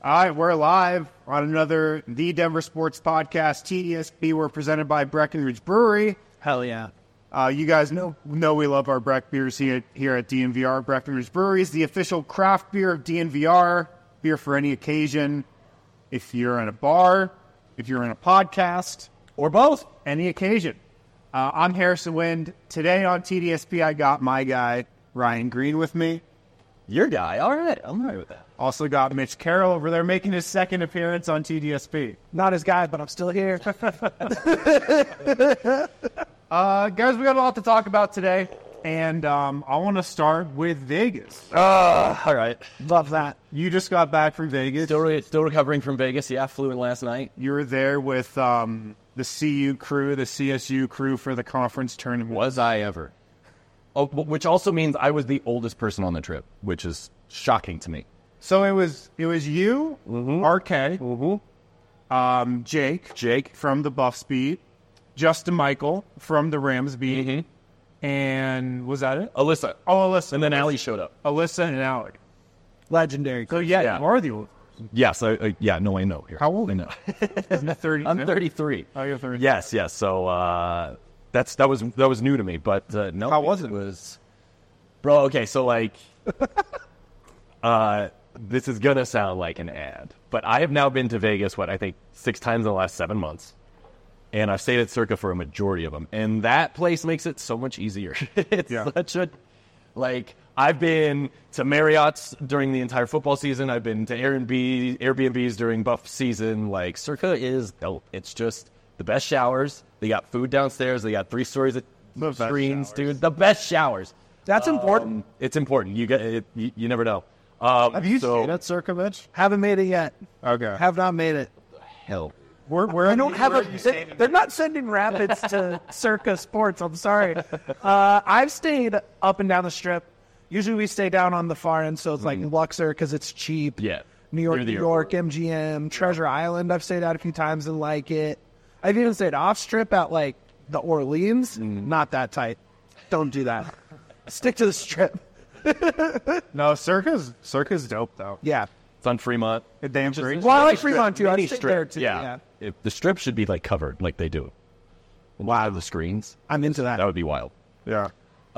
All right, we're live on another The Denver Sports Podcast, TDSP. We're presented by Breckenridge Brewery. Hell yeah. You guys know we love our Breck beers here at DNVR. Breckenridge Brewery is the official craft beer of DNVR. Beer for any occasion. If you're in a bar, if you're in a podcast. Or both. Any occasion. I'm Harrison Wind. Today on TDSP, I got my guy, Ryan Green, with me. Your guy. All right. I'm all right with that. Also got Mitch Carroll over there making his second appearance on TDSP. Not his guy, but I'm still here. Guys, we got a lot to talk about today, and I want to start with Vegas. All right. Love that. You just got back from Vegas. Still recovering from Vegas. Yeah, flew in last night. You were there with the CU crew, the CSU crew for the conference tournament. Was I ever? Oh, which also means I was the oldest person on the trip, which is shocking to me. So it was you, RK, Jake from the Buffs beat, Justin Michael from the Rams beat, and was that it? Alyssa. Oh, Alyssa. And then Allie showed up. Alyssa and Allie. Legendary. So yeah, you are the oldest. Yes. Yeah, no, I know. Here. How old I know. Isn't it 30? I'm 33. Oh, you're 30. Yes. So that was new to me, but no. How was it? Bro, okay, so like this is gonna sound like an ad, but I have now been to Vegas, I think 6 times in the last 7 months. And I've stayed at Circa for a majority of them. And that place makes it so much easier. It's such a, I've been to Marriott's during the entire football season. I've been to Airbnbs during Buff season. Circa is, it's just the best showers. They got food downstairs. They got 3 stories of screens, dude. The best showers. That's important. It's important. You get it. You never know. Have you stayed at Circa, Mitch? Haven't made it yet. Okay. Have not made it. Hell. I don't have they're not sending rapids to Circa Sports. I'm sorry. I've stayed up and down the strip. Usually we stay down on the far end, so it's like Luxor because it's cheap. Yeah. New York, MGM, Treasure Island. I've stayed out a few times and like it. I've even stayed off strip at the Orleans. Not that tight. Don't do that. Stick to the strip. No, Circa's dope though. Yeah. It's on Fremont. Damn free. Well, I like Fremont too. I Mini stayed strip. there too. Yeah. If the strip should be covered like they do. Wow, the screens. I'm into that. That would be wild. Yeah.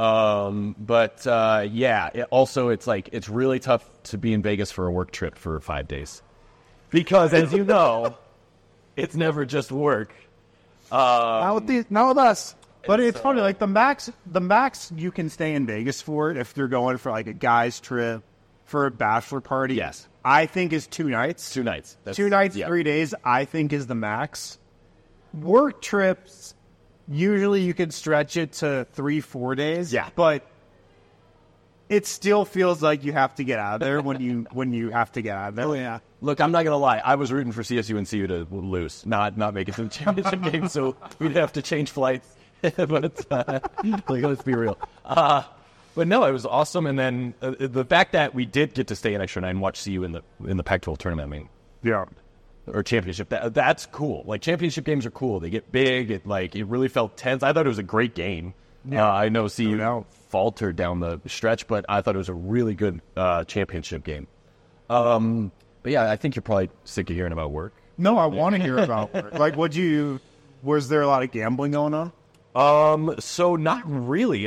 It's really tough to be in Vegas for a work trip for 5 days. Because as you know, it's never just work. Not with us. But it's funny, the max you can stay in Vegas for if you're going for a guy's trip, for a bachelor party. Yes. I think is 2 nights. 2 nights. 2 nights, 3 days, I think is the max. Work trips, usually you can stretch it to 3-4 days. Yeah. But it still feels like you have to get out of there when you have to get out of there. Oh, yeah. Look, I'm not going to lie. I was rooting for CSU and CU to lose, not make it to the championship game, so we'd have to change flights. But let's be real. But no, it was awesome. And then the fact that we did get to stay an extra night and watch CU in the Pac-12 tournament, or championship, that's cool. Championship games are cool. They get big. It really felt tense. I thought it was a great game. Yeah. I know CU faltered down the stretch, but I thought it was a really good championship game. But yeah, I think you're probably sick of hearing about work. No, I want to hear about work. Was there a lot of gambling going on? So not really.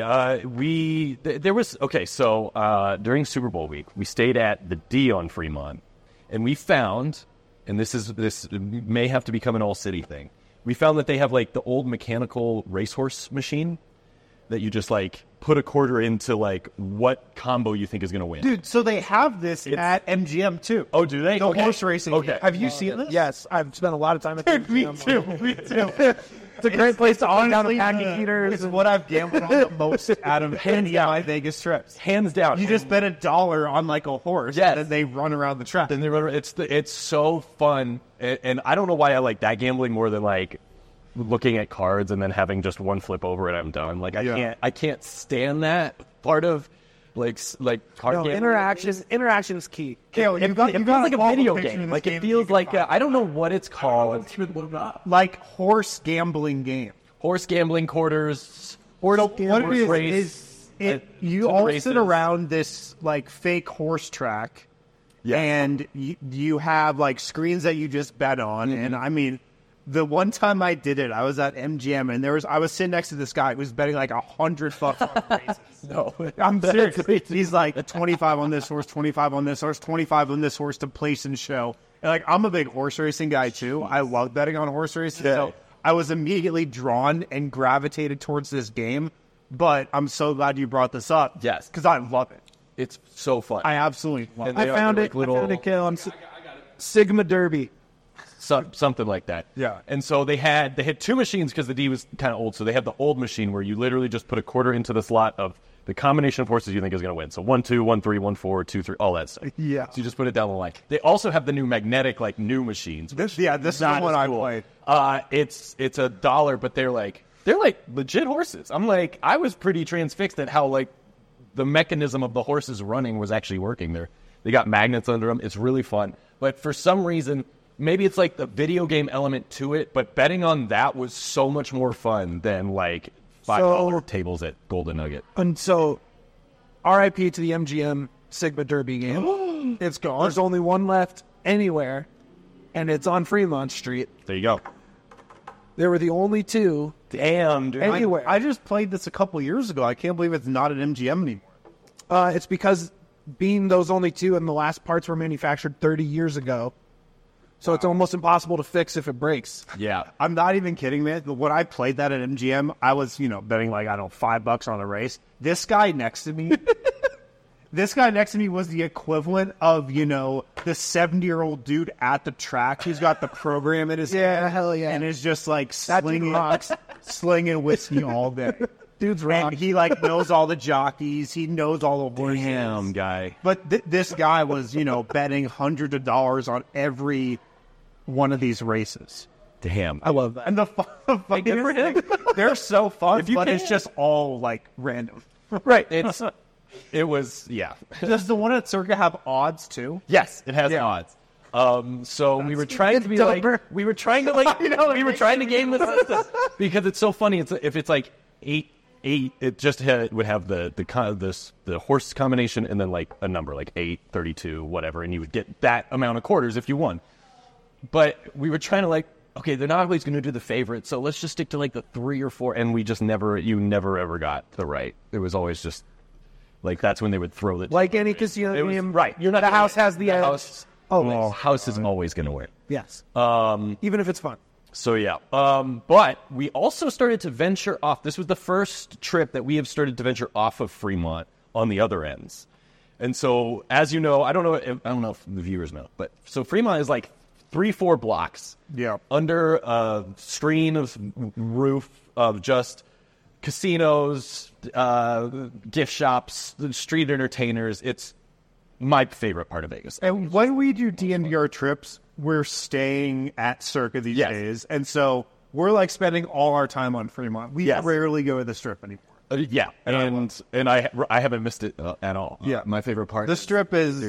During Super Bowl week, we stayed at the D on Fremont, and we found, and this may have to become an all city thing. We found that they have the old mechanical racehorse machine that you just put a quarter into what combo you think is going to win. Dude, so they have this at MGM too. Oh, do they? The horse racing. Okay. Have you seen this? Yes, I've spent a lot of time at Dude, me too. It's a great place to honestly down the packing heaters. It's what I've gambled on the most out of my Vegas trips. Hands down. You just bet $1 on a horse, yes, and then they run around the track. Then they run. It's so fun, and I don't know why I like that gambling more than looking at cards and then having just one flip over and I'm done. I can't stand that part of card gambling. Interaction is key. Kale, it feels like a video game. It feels I don't know what it's called. Horse gambling game. Horse gambling quarters. What it is you all sit around this fake horse track, Yeah. And you have like screens that you just bet on. And I mean, the one time I did it, I was at MGM and I was sitting next to this guy who was betting like $100 on races. No, I'm serious. He's like 25 on this horse, 25 on this horse, 25 on this horse to place and show. And like, I'm a big horse racing guy too. I love betting on horse racing. Yeah. So I was immediately drawn and gravitated towards this game. But I'm so glad you brought this up. Yes. Because I love it. it's so fun. I absolutely love And it. they I are found like it. little- I found it, Kale. Sigma Derby. Something like that. Yeah. And so they had 2 machines because the D was kind of old. So they had the old machine where you literally just put a quarter into the slot of the combination of horses you think is going to win. So 1, 2, 1, 3, 1, 4, 2, 3, all that stuff. Yeah. So you just put it down the line. They also have the new magnetic, like new machines. This is the Not one as I cool. played. It's $1, but they're like legit horses. I'm like, I was pretty transfixed at how like the mechanism of the horses running was actually working. They got magnets under them. It's really fun. But for some reason, maybe it's like the video game element to it, but betting on that was so much more fun than like $5 tables at Golden Nugget. And so, RIP to the MGM Sigma Derby game. It's gone. There's only one left anywhere, and it's on Fremont Street. There you go. There were the only 2 Damn, dude. anywhere. I just played this a couple years ago. I can't believe it's not at MGM anymore. It's because being those only 2 and the last parts were manufactured 30 years ago. So it's almost impossible to fix if it breaks. Yeah. I'm not even kidding, man. When I played that at MGM, I was, betting like, I don't know, $5 on a race. This guy next to me, was the equivalent of, the 70-year-old dude at the track who's got the program in his hand. Hell yeah. And is just like That dude rocks. slinging whiskey all day. Dude's rock. And he like knows all the jockeys. He knows all the horses. Damn, guy. But this guy was, betting hundreds of dollars on every one of these races. Damn. I love that. And the fucking good for him. they're so fun, If you but can. it's just all like random. Right. It was, yeah. Does the one at Circa have odds too? Yes, it has Yeah. odds. So we were trying to be like, dumber. we were trying to like, we were trying to game the system because it's so funny. If it's like 8, it just would have the horse combination and then like a number like 8, 32, whatever, and you would get that amount of quarters if you won. But we were trying to like, okay, they're not always going to do the favorite, so let's just stick to like the 3 or 4, and you never ever got the right. It was always just like that's when they would throw the Like any casino It was- game, right. You're not the gonna house win. has the edge. house. Always. House is always going to win. Yes. Even if it's fun. So yeah, but we also started to venture off. This was the first trip that we have started to venture off of Fremont on the other ends. And so, as you know, I don't know if the viewers know, but so Fremont is like 3-4 blocks. Yeah. Under a screen of roof of just casinos, gift shops, street entertainers. It's my favorite part of Vegas. And when we do DNVR trips, we're staying at Circa these Yes. days, and so we're like spending all our time on Fremont. We Yes. rarely go to the Strip anymore. Yeah, and I haven't missed it at all. Yeah. My favorite part. The Strip is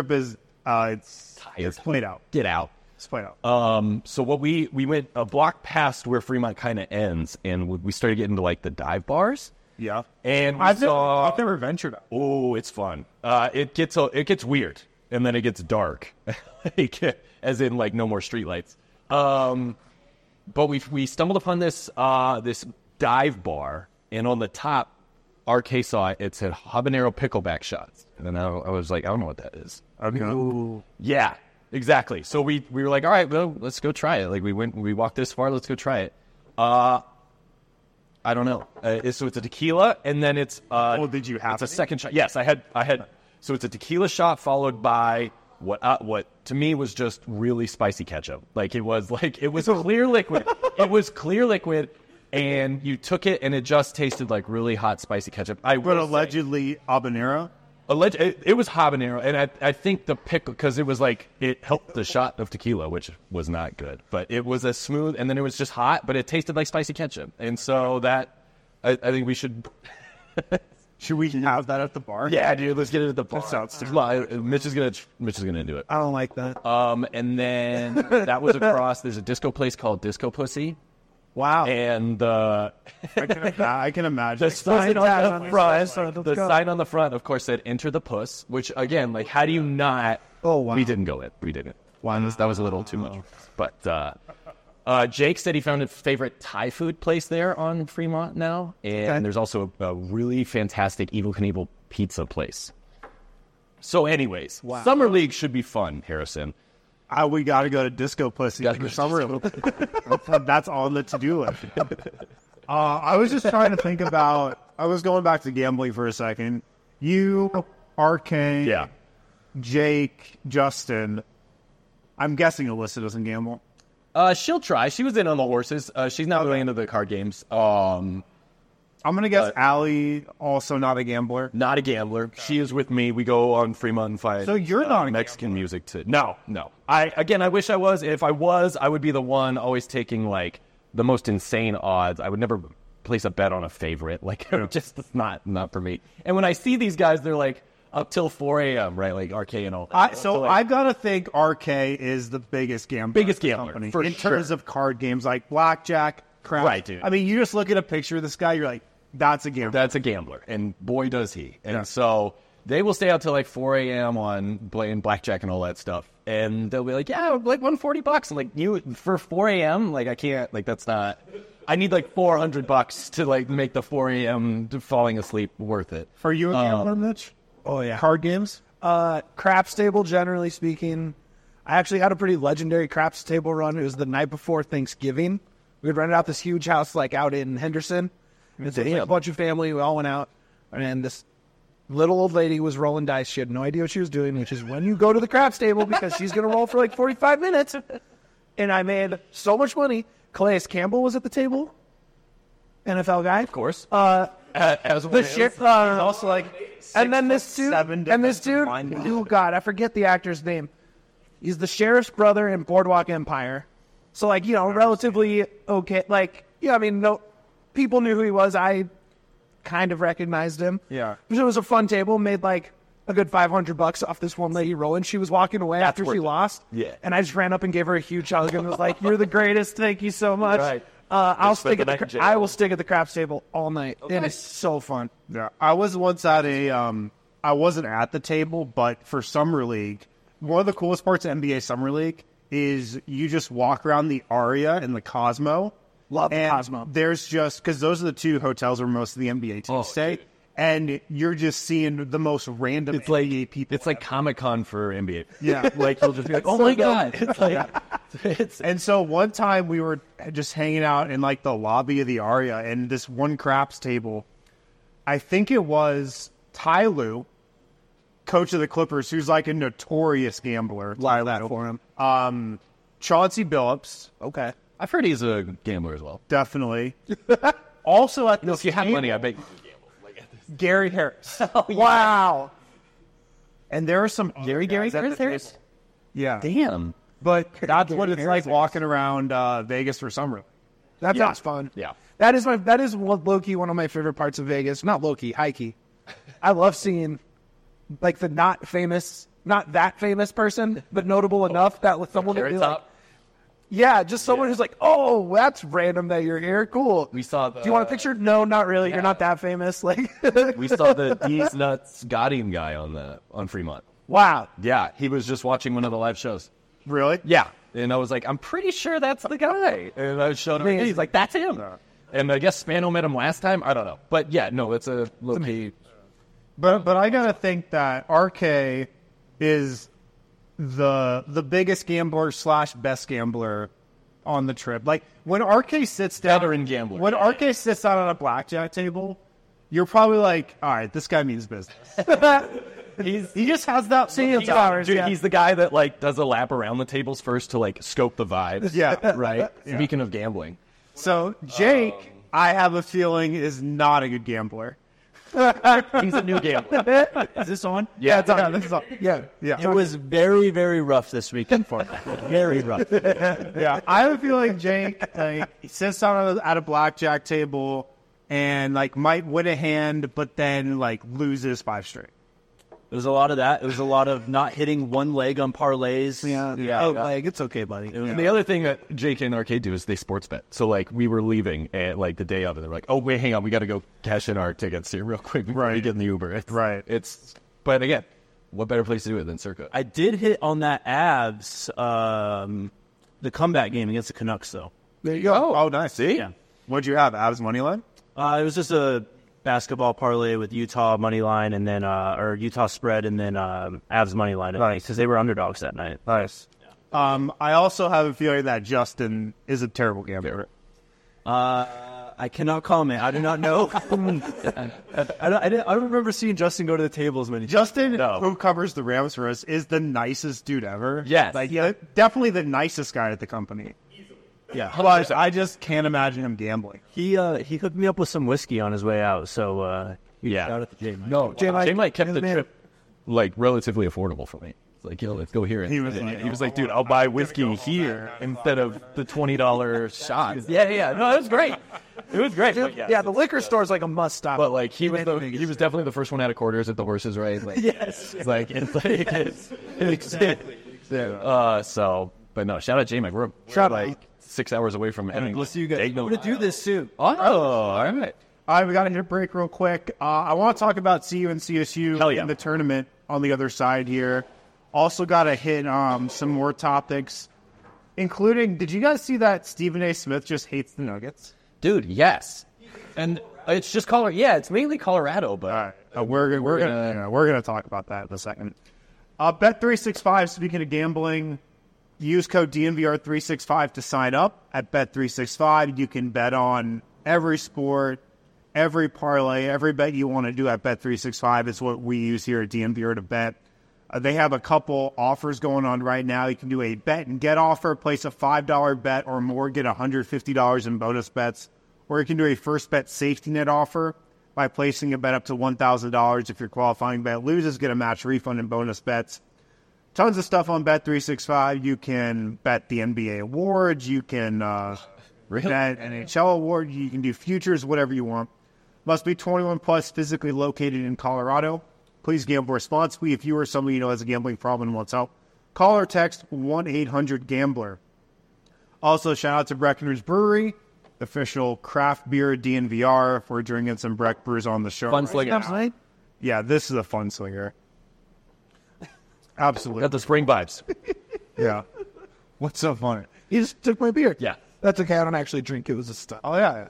it's played out. Get out. It's played out. So what we went a block past where Fremont kind of ends, and we started getting to like the dive bars. Yeah, And we I've saw. never ventured out. Oh, it's fun. It gets weird, and then it gets dark, as in like no more streetlights. But we stumbled upon this dive bar, and on the top, RK saw it said habanero pickleback shots, and then I was like, I don't know what that is. Okay. Yeah, exactly. So we were like, all right, well, let's go try it. Like we walked this far, let's go try it. I don't know. So it's a tequila, and then it's did you have It's a any? second shot. Yes, I had. So it's a tequila shot followed by what to me was just really spicy ketchup. Like it was clear liquid. It was clear liquid, and you took it, and it just tasted like really hot spicy ketchup. But will say- allegedly habanero. it was habanero, and I think the pickle, because it was like, it helped the shot of tequila, which was not good. But it was a smooth, and then it was just hot, but it tasted like spicy ketchup. And so that, I think we should... Should we have that at the bar? Yeah, dude, let's get it at the bar. That sounds stupid. Mitch is gonna do it. I don't like that. And then that was across, there's a disco place called Disco Pussy. Wow. And I can imagine. the sign on the front, Let's the go. sign on the front, of course, said "Enter the Puss," which again, like, how do you not? Oh, wow. We didn't go in. We didn't. That was a little too much. But Jake said he found a favorite Thai food place there on Fremont now, and there's also a really fantastic Evel Knievel pizza place. So, anyways, Summer League should be fun, Harrison. We got to go to Disco Pussy Gotta for go to summer. That's on the to-do list. I was just trying to think about. I was going back to gambling for a second. You, RK, Yeah. Jake, Justin. I'm guessing Alyssa doesn't gamble. She'll try. She was in on the horses. She's not really into the card games. I'm gonna guess Allie, also not a gambler. Not a gambler. She is with me. We go on Fremont and find So you're not a Mexican music too. No. I wish I was. If I was, I would be the one always taking like the most insane odds. I would never place a bet on a favorite. Like just it's not for me. And when I see these guys, they're like up till 4 a.m. right? Like RK and all that. So I've got to think RK is the biggest gambler. Biggest gambler, company for in sure. terms of card games like blackjack, crap. Right, dude. I mean, you just look at a picture of this guy, you're like, that's a gambler. That's a gambler, and boy does he. And so they will stay out till like 4 a.m. on playing blackjack and all that stuff. And they'll be like, yeah, like $140. I'm like, you for 4 a.m. Like I can't. Like that's not. I need like $400 to like make the 4 a.m. falling asleep worth it. For you, a gambler, Mitch? Oh, yeah. Card games? Craps table, generally speaking. I actually had a pretty legendary craps table run. It was the night before Thanksgiving. We had rented out this huge house like out in Henderson. It's like a bunch of family. We all went out. And this little old lady was rolling dice. She had no idea what she was doing, which is when you go to the craps table because she's going to roll for like 45 minutes. And I made so much money. Calais Campbell was at the table. NFL guy. Of course. As one the is. sheriff, Also, like, and then this dude, 6'7" and this dude, defensive lineman. oh god, I forget the actor's name. He's the sheriff's brother in Boardwalk Empire. So like, you know, relatively okay. Like, yeah, I mean, no, people knew who he was. I kind of recognized him. Yeah. It was a fun table. Made like a good $500 off this one lady rolling. She was walking away after worth she it. lost. Yeah. And I just ran up and gave her a huge hug and was like, "You're the greatest. Thank you so much." Right. I'll spent stick the at night in the. jail. I will stick at the craps table all night. It is so fun. Yeah, I was once at a. I wasn't at the table, but for Summer League, one of the coolest parts of NBA Summer League is you just walk around the Aria and the Cosmo. Love the and Cosmo. There's just because those are the two hotels where most of the NBA teams stay, dude. and you're just seeing the most random It's like NBA people. It's like Comic-Con for NBA. Yeah. Like you'll just be like, oh my god. It's like it's And so one time we were just hanging out in like the lobby of the Aria, and this one craps table, I think it was Ty Lue, coach of the Clippers, who's like a notorious gambler. Love that for him. Chauncey Billups, Okay. I've heard he's a gambler as well. definitely. Also at No, this if you have table, money, I bet you could gamble. Like, Gary Harris. Wow. And there are some Gary guys at the Harris? table. Yeah. Damn. But that's what it's Harris. like walking around Vegas for summer League. That sounds fun. Yeah. That is low key one of my favorite parts of Vegas. Not low key, high key. I love seeing like the not that famous person, but notable enough that with someone would Carrot be like, Top. yeah, just someone who's like, oh, that's random that you're here. Cool. We saw the. Do you want a picture? No, not really. You're not that famous. Like, We saw the These Nuts Godding guy on Fremont. wow. Yeah, he was just watching one of the live shows. Really? Yeah, and I was like, I'm pretty sure that's the guy. And I showed him. And he's like, that's him. And I guess Spano met him last time. I don't know, but yeah, no, it's a low key. But I gotta think that RK is the biggest gambler / best gambler on the trip. Like when RK sits down, Veteran gambler. When RK sits down on a blackjack table, you're probably like, all right, this guy means business. He just has that Seeing flowers. Dude, Yeah. he's the guy that like does a lap around the tables first to like scope the vibes. Yeah. Right. Speaking of gambling, So Jake, I have a feeling, is not a good gambler. he's a new gambler. Is this on? Yeah, it's on. This is on. Yeah. Yeah. It was very, very rough this weekend for me. Very rough. Yeah, I have a feeling Jake, like, he sits down at a blackjack table and like might win a hand, but then like loses 5 straight. It was a lot of that. It was a lot of not hitting one leg on parlays. Oh, like, it's okay, buddy. And the other thing that JK and Arcade do is they sports bet. So, like, we were leaving at, like, the day of, and they're like, oh, wait, hang on, we got to go cash in our tickets here real quick before we get in the Uber. But again, what better place to do it than Circa? I did hit on that Avs, the comeback game against the Canucks, though. There you go. Oh, nice. See? Yeah. What'd you have? Avs money line? It was just a basketball parlay with Utah money line and then or Utah spread and then Avs money line. Nice. Because they were underdogs that night. Nice. I also have a feeling that Justin is a terrible gambler. I cannot comment. I do not know. I don't remember seeing Justin go to the table as many times. Justin, who covers the Rams for us, is the nicest dude ever. Yes. Like, definitely the nicest guy at the company. Yeah. But I just can't imagine him gambling. He hooked me up with some whiskey on his way out, so Yeah. shout out to J-Mike. No, J-Mike kept the man. trip, like, relatively affordable for me. It's like, yo, let's go here. He was like, dude, I'll buy whiskey here instead of the $20 shots. Yeah. No, it was great. It was great. But Yeah, the liquor store's like a must stop. But like he was definitely the first one out of quarters at the horses, right? Like, Yes. So, but no, shout out J-Mac. We're like 6 hours away from having. We'll see you guys. We're going to do this soon. Oh, all right. all right, we got to hit a break real quick. I want to talk about CU and CSU Hell yeah. in the tournament on the other side here. Also got to hit some more topics, including, did you guys see that Stephen A. Smith just hates the Nuggets? Dude, yes. And it's just Colorado. Yeah, it's mainly Colorado, but All right, we're gonna talk about that in a second. Bet365. Speaking of gambling, use code DNVR365 to sign up at Bet365. You can bet on every sport, every parlay, every bet you want to do at Bet365. It's what we use here at DNVR to bet. They have a couple offers going on right now. You can do a bet and get offer, place a $5 bet or more, get $150 in bonus bets. Or you can do a first bet safety net offer by placing a bet up to $1,000. If your qualifying bet loses, get a match refund and bonus bets. Tons of stuff on Bet365. You can bet the NBA awards. You can bet NHL award. You can do futures, whatever you want. Must be 21 plus, physically located in Colorado. Please gamble responsibly. If you or somebody you know has a gambling problem and wants help, call or text 1-800-GAMBLER. Also, shout out to Breckenridge Brewery, official craft beer DNVR. If we're drinking some Breck brews on the show. fun slinger. Yeah, this is a fun slinger. Absolutely. Got the spring vibes. Yeah. What's so funny? He just took my beer. Yeah. That's okay. I don't actually drink. It was a stunt. Oh, yeah.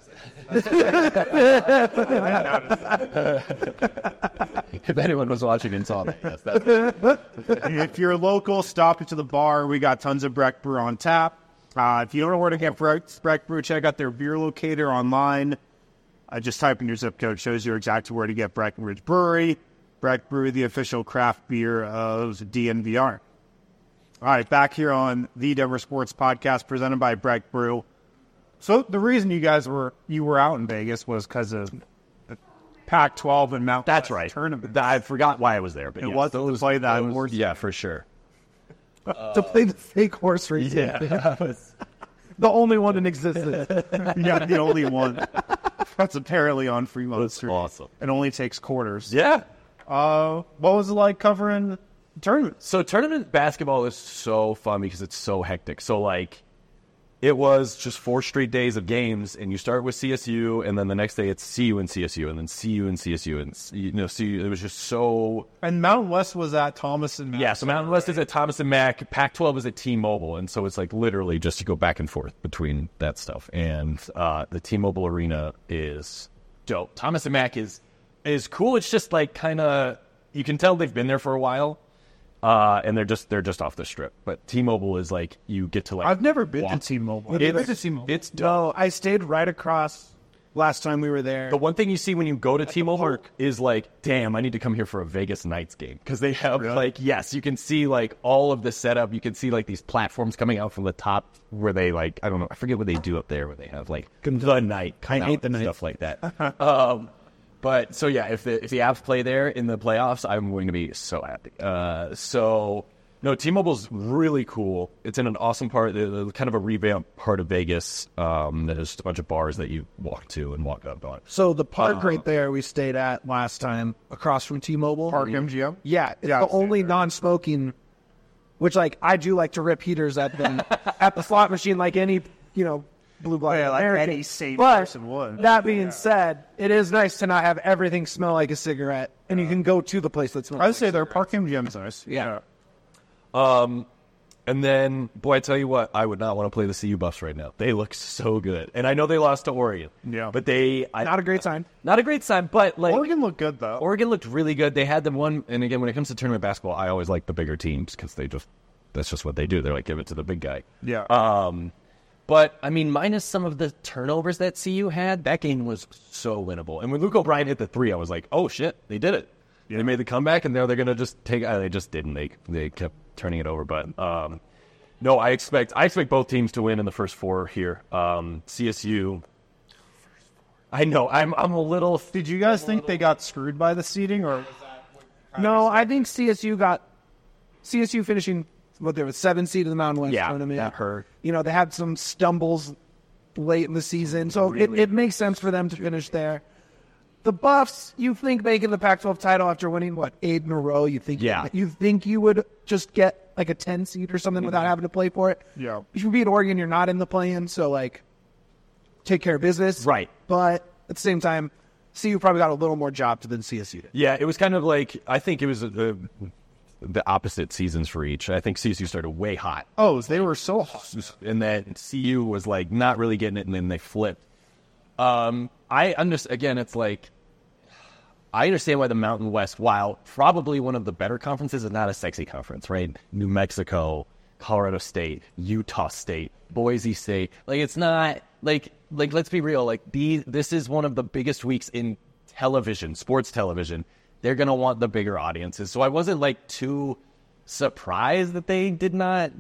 If anyone was watching and saw that, yes, that's If you're local, stop into the bar. We got tons of Breck Brew on tap. If you don't know where to get Breck Brew, check out their beer locator online. Just type in your zip code. Shows you exactly where to get Breckenridge Brewery. Breck Brew, the official craft beer of DNVR. All right, back here on the Denver Sports Podcast presented by Breck Brew. So the reason you were out in Vegas was because of the Pac-12 and Mountain That's West right. tournament. I forgot why I was there, but It wasn't to play that award. Yeah, for sure. To play the fake horse race. Yeah, The only one in existence. Yeah, the only one. That's apparently on Fremont Street. awesome. It only takes quarters. Yeah. What was it like covering tournaments? So tournament basketball is so fun because it's so hectic. So like, it was just 4 straight days of games, and you start with CSU, and then the next day it's CU and CSU, and then CU and CSU, and CU. It was just so. And Mountain West was at Thomas and Mack. Yeah, so Mountain West is at Thomas and Mack. Pac-12 is at T-Mobile, and so it's like literally just to go back and forth between that stuff. And the T-Mobile Arena is dope. Thomas and Mack is cool. It's just like kind of, you can tell they've been there for a while. And they're just off the strip. But T-Mobile is like, you get to like. I've never been walk. to T-Mobile. It's dope. No, I stayed right across last time we were there. The one thing you see when you go to T-Mobile is like, damn, I need to come here for a Vegas Knights game. Because they have like, yes, you can see like all of the setup. You can see like these platforms coming out from the top where they like, I don't know, I forget what they do up there where they have like the night. I hate the night. Stuff like that. But so yeah, if the Avs play there in the playoffs, I'm going to be so happy. So No, T-Mobile's really cool. It's in an awesome part, kind of a revamped part of Vegas. There's just a bunch of bars that you walk to and walk up on. So the park right there we stayed at last time, across from T-Mobile. Park MGM. Yeah, it's the only non-smoking. Which, like, I do like to rip heaters at the slot machine, like any blue blood American. Any sane But person would. that being said, it is nice to not have everything smell like a cigarette, and you can go to the place that smells. I would say their Park MGM's nice. Yeah. And then, boy, I tell you what, I would not want to play the CU Buffs right now. They look so good. And I know they lost to Oregon. Yeah. But Not a great sign. Not a great sign, but like... Oregon looked good, though. Oregon looked really good. They had them one, and again, when it comes to tournament basketball, I always like the bigger teams because that's just what they do. They're like, give it to the big guy. Yeah. But, I mean, minus some of the turnovers that CU had, that game was so winnable. And when Luke O'Brien hit the three, I was like, oh, shit, they did it. Yeah. They made the comeback, and now they're going to just take... they just didn't. They kept turning it over. But, no, I expect both teams to win in the first four here. CSU... I know, I'm a little... Did you guys think they got screwed by the seeding, or was that... No, I think CSU finishing... they were 7th seed in the Mountain West tournament. That hurt. They had some stumbles late in the season, so it makes sense for them to finish there. The Buffs, you think making the Pac-12 title after winning, 8 in a row, you think you would just get like a 10 seed or something without having to play for it? Yeah. If you beat Oregon, you're not in the play-in, so take care of business. Right. But at the same time, CU probably got a little more job than CSU did. Yeah, it was kind of like, I think it was the opposite seasons for each. I think CSU started way hot. Oh, they were so hot. And then CU was like not really getting it, and then they flipped. I understand. Again, it's like I understand why the Mountain West, while probably one of the better conferences, is not a sexy conference, right? New Mexico, Colorado State, Utah State, Boise State. Like it's not like let's be real. Like this is one of the biggest weeks in television, sports television. They're gonna want the bigger audiences. So I wasn't too surprised that they did not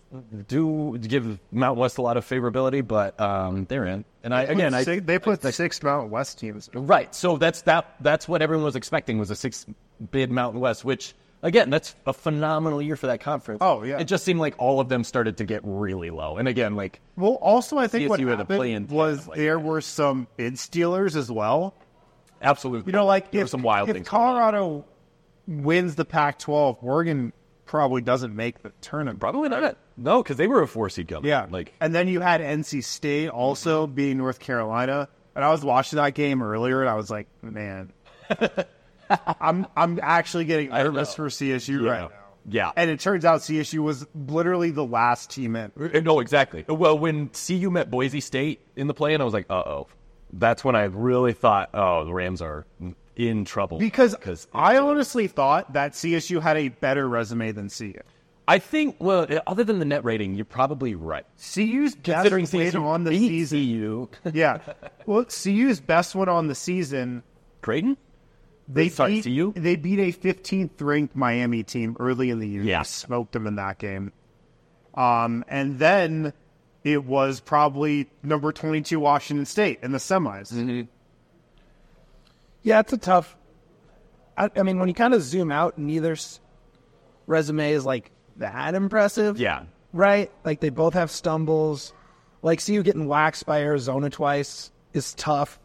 give Mountain West a lot of favorability, but they're in. And they put the 6 Mountain West teams. Right. So that's what everyone was expecting, was a 6-bid Mountain West, which again, that's a phenomenal year for that conference. Oh yeah. It just seemed like all of them started to get really low. And again, well, also I think what CSU had a happened play-in was there were some bid stealers as well. Absolutely. If some wild if things. Colorado wins the Pac-12, Oregon probably doesn't make the tournament. Probably not. No, because they were a 4-seed coming. Yeah. And then you had NC State also beating North Carolina. And I was watching that game earlier, and I was like, man, I'm actually getting nervous for CSU right now. Yeah. And it turns out CSU was literally the last team in. No, exactly. Well, when CU met Boise State in the play-in, I was like, uh-oh. That's when I really thought, oh, the Rams are in trouble. Because I honestly thought that CSU had a better resume than CU. I think, well, other than the net rating, you're probably right. CU's best win on the season. CU. Yeah. Well, CU's best one on the season. Creighton? They CU? They beat a 15th ranked Miami team early in the year. Yeah. Smoked them in that game. And then it was probably number 22 Washington State in the semis. Mm-hmm. Yeah, it's a tough. I mean, when you kind of zoom out, neither's resume is that impressive. Yeah. Right? They both have stumbles. CU getting waxed by Arizona twice is tough.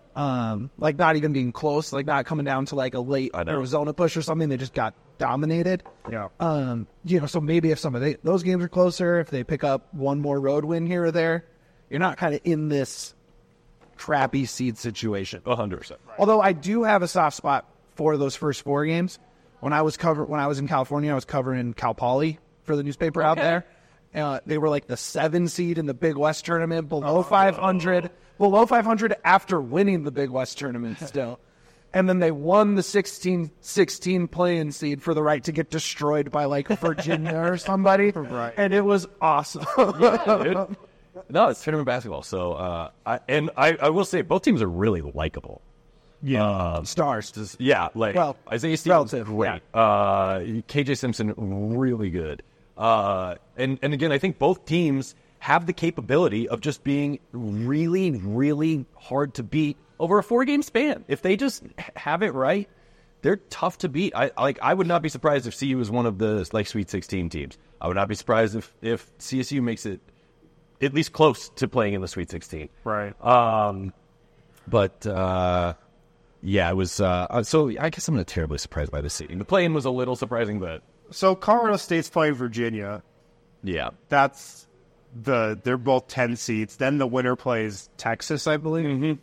Not even being close, not coming down to a late Arizona push or something. They just got dominated. Yeah. So maybe if some of those games are closer, if they pick up one more road win here or there, you're not kind of in this crappy seed situation. 100%. Right. Although I do have a soft spot for those first 4 games. When I was in California, I was covering Cal Poly for the newspaper out there. They were the 7 seed in the Big West tournament, below 500. Below 500 after winning the Big West tournament still. And then they won the 16 play-in seed for the right to get destroyed by Virginia or somebody. Right. And it was awesome. Yeah, no, it's tournament basketball. So, I will say both teams are really likable. Yeah. Stars. Isaiah Stevens, great. Yeah. KJ Simpson, really good. And again, I think both teams have the capability of just being really, really hard to beat over a 4-game span. If they just have it right, they're tough to beat. I would not be surprised if CU is one of the like Sweet 16 teams. I would not be surprised if CSU makes it at least close to playing in the Sweet 16. Right. But yeah, it was. So I guess I'm not terribly surprised by the seeding. The play-in was a little surprising, but So Colorado State's playing Virginia. yeah. They're both 10 seeds. Then the winner plays Texas, I believe.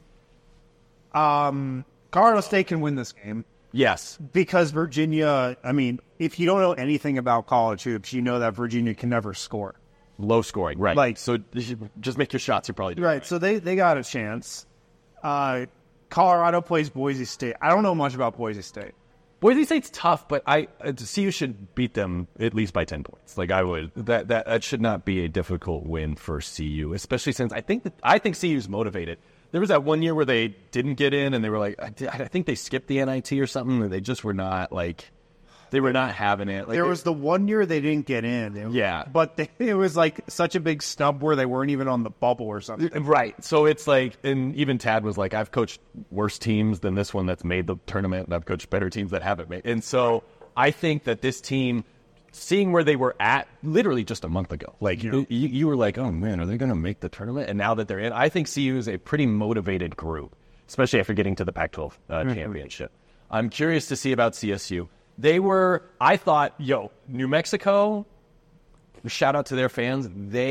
Colorado State can win this game Yes. because Virginia, I mean, if you don't know anything about college hoops, you know that Virginia can never score. Low scoring, right? Like- so just make your shots. You're probably doing Right, so they got a chance. Colorado plays Boise State. I don't know much about Boise State. Boise State's tough, but CU should beat them at least by 10 points. Like I would, that should not be a difficult win for CU, especially since I think CU's motivated. There was that one year where they didn't get in, and they were like, I think they skipped the NIT or something, and they just were not like, they were not having it. Like, There was the one year they didn't get in. Yeah. But it was like such a big snub where they weren't even on the bubble or something. Right. So it's like, and even Tad was like, I've coached worse teams than this one that's made the tournament, and I've coached better teams that haven't made. And so I think that this team, seeing where they were at literally just a month ago, like you were like, oh man, are they going to make the tournament? And now that they're in, I think CU is a pretty motivated group, especially after getting to the Pac-12 championship. I'm curious to see about CSU. I thought, New Mexico, shout out to their fans.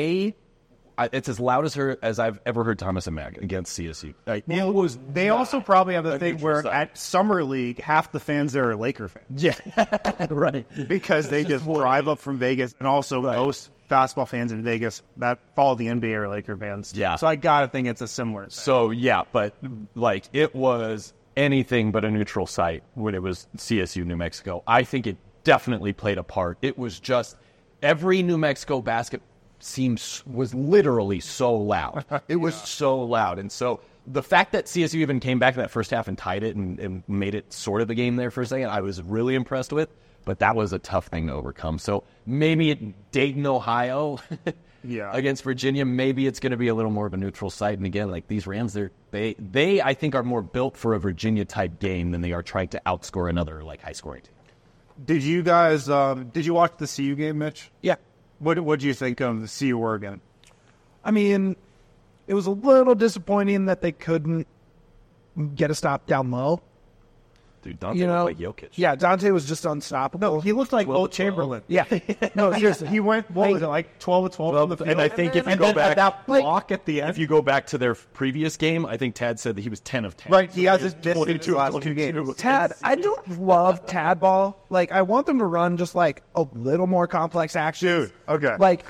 It's as loud as I've ever heard Thomas and Mack against CSU. Like, They also probably have the thing where at Summer League, half the fans there are Laker fans. yeah, right. Because they just drive up from Vegas, and also most basketball fans in Vegas that follow the NBA are Laker fans. Yeah. So I gotta think it's a similar thing. So yeah, but like it was anything but a neutral site when it was CSU New Mexico. I think it definitely played a part. It was just every New Mexico basket was literally so loud. It was so loud. And so the fact that CSU even came back in that first half and tied it and made it sort of the game there for a second, I was really impressed with. But that was a tough thing to overcome. So maybe at Dayton, Ohio, against Virginia, maybe it's going to be a little more of a neutral site. And again, like these Rams, they I think are more built for a Virginia type game than they are trying to outscore another like high scoring team. Did you guys did you watch the CU game, Mitch? Yeah. What did you think of the CU Oregon? I mean, it was a little disappointing that they couldn't get a stop down low. Dude, Dante looked like Jokic. Yeah, Dante was just unstoppable. He looked like Will Chamberlain. Yeah. No, seriously. He went, what was it, like 12 of 12 from the field? And I think if you and go then back, that block at the end. if you go back to their previous game, I think Tad said that he was 10 of 10. Right, he has his missed 22 last 22. two games. Tad, I don't love Tad ball. Like, I want them to run just like a little more complex actions. Dude, okay. Like,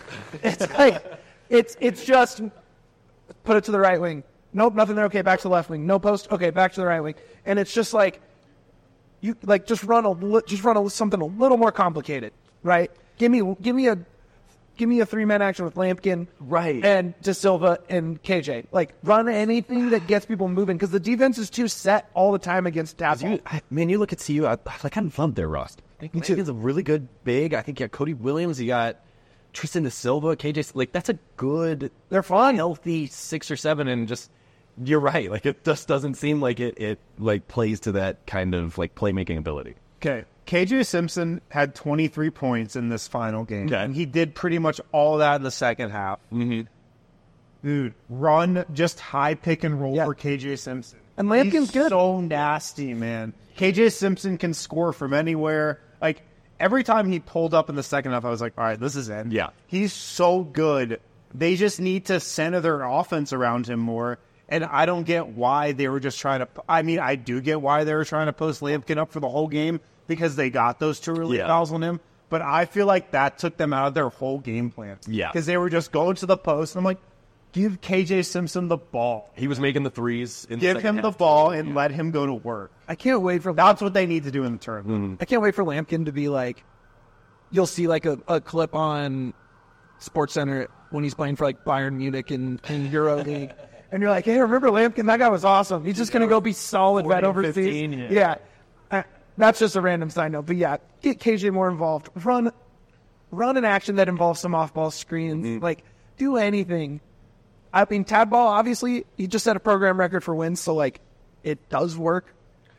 it's just put it to the right wing. Nope, nothing there. Okay, back to the left wing. No post. Okay, back to the right wing. And it's just like, you like just run something a little more complicated, right? Give me a 3-man action with Lampkin, Right. and De Silva and KJ. Like run anything that gets people moving because the defense is too set all the time against Tadball. You look at CU, I kind of loved their roster. I think Lampkin's a really good big. I think you got Cody Williams, you got Tristan De Silva, KJ. Like that's a good, They're fun. healthy 6 or 7, and just. You're right. Like it just doesn't seem like it like plays to that kind of like playmaking ability. Okay. KJ Simpson had 23 points in this final game. Okay. And he did pretty much all that in the second half. Mm-hmm. Dude, run just high pick and roll Yeah. for KJ Simpson. And Lampkin's He's good. so nasty, man. KJ Simpson can score from anywhere. Like, every time he pulled up in the second half, I was like, all right, this is it. Yeah. He's so good. They just need to center their offense around him more. And I don't get why they were just trying to – I mean, I do get why they were trying to post Lampkin up for the whole game because they got those 2 early fouls on him. But I feel like that took them out of their whole game plan. Yeah. Because they were just going to the post. And I'm like, give KJ Simpson the ball. He was making the threes. Give him the ball and let him go to work. I can't wait for That's what they need to do in the tournament. I can't wait for Lampkin to be like, you'll see like a clip on SportsCenter when he's playing for like Bayern Munich in Euro League. And you're like, hey, remember Lampkin? That guy was awesome. He's just going to go be solid vet overseas. 15, Yeah. That's just a random side note. But yeah, get KJ more involved. Run an action that involves some off-ball screens. Like, do anything. I mean, Tadball, obviously, he just set a program record for wins, so, like, it does work.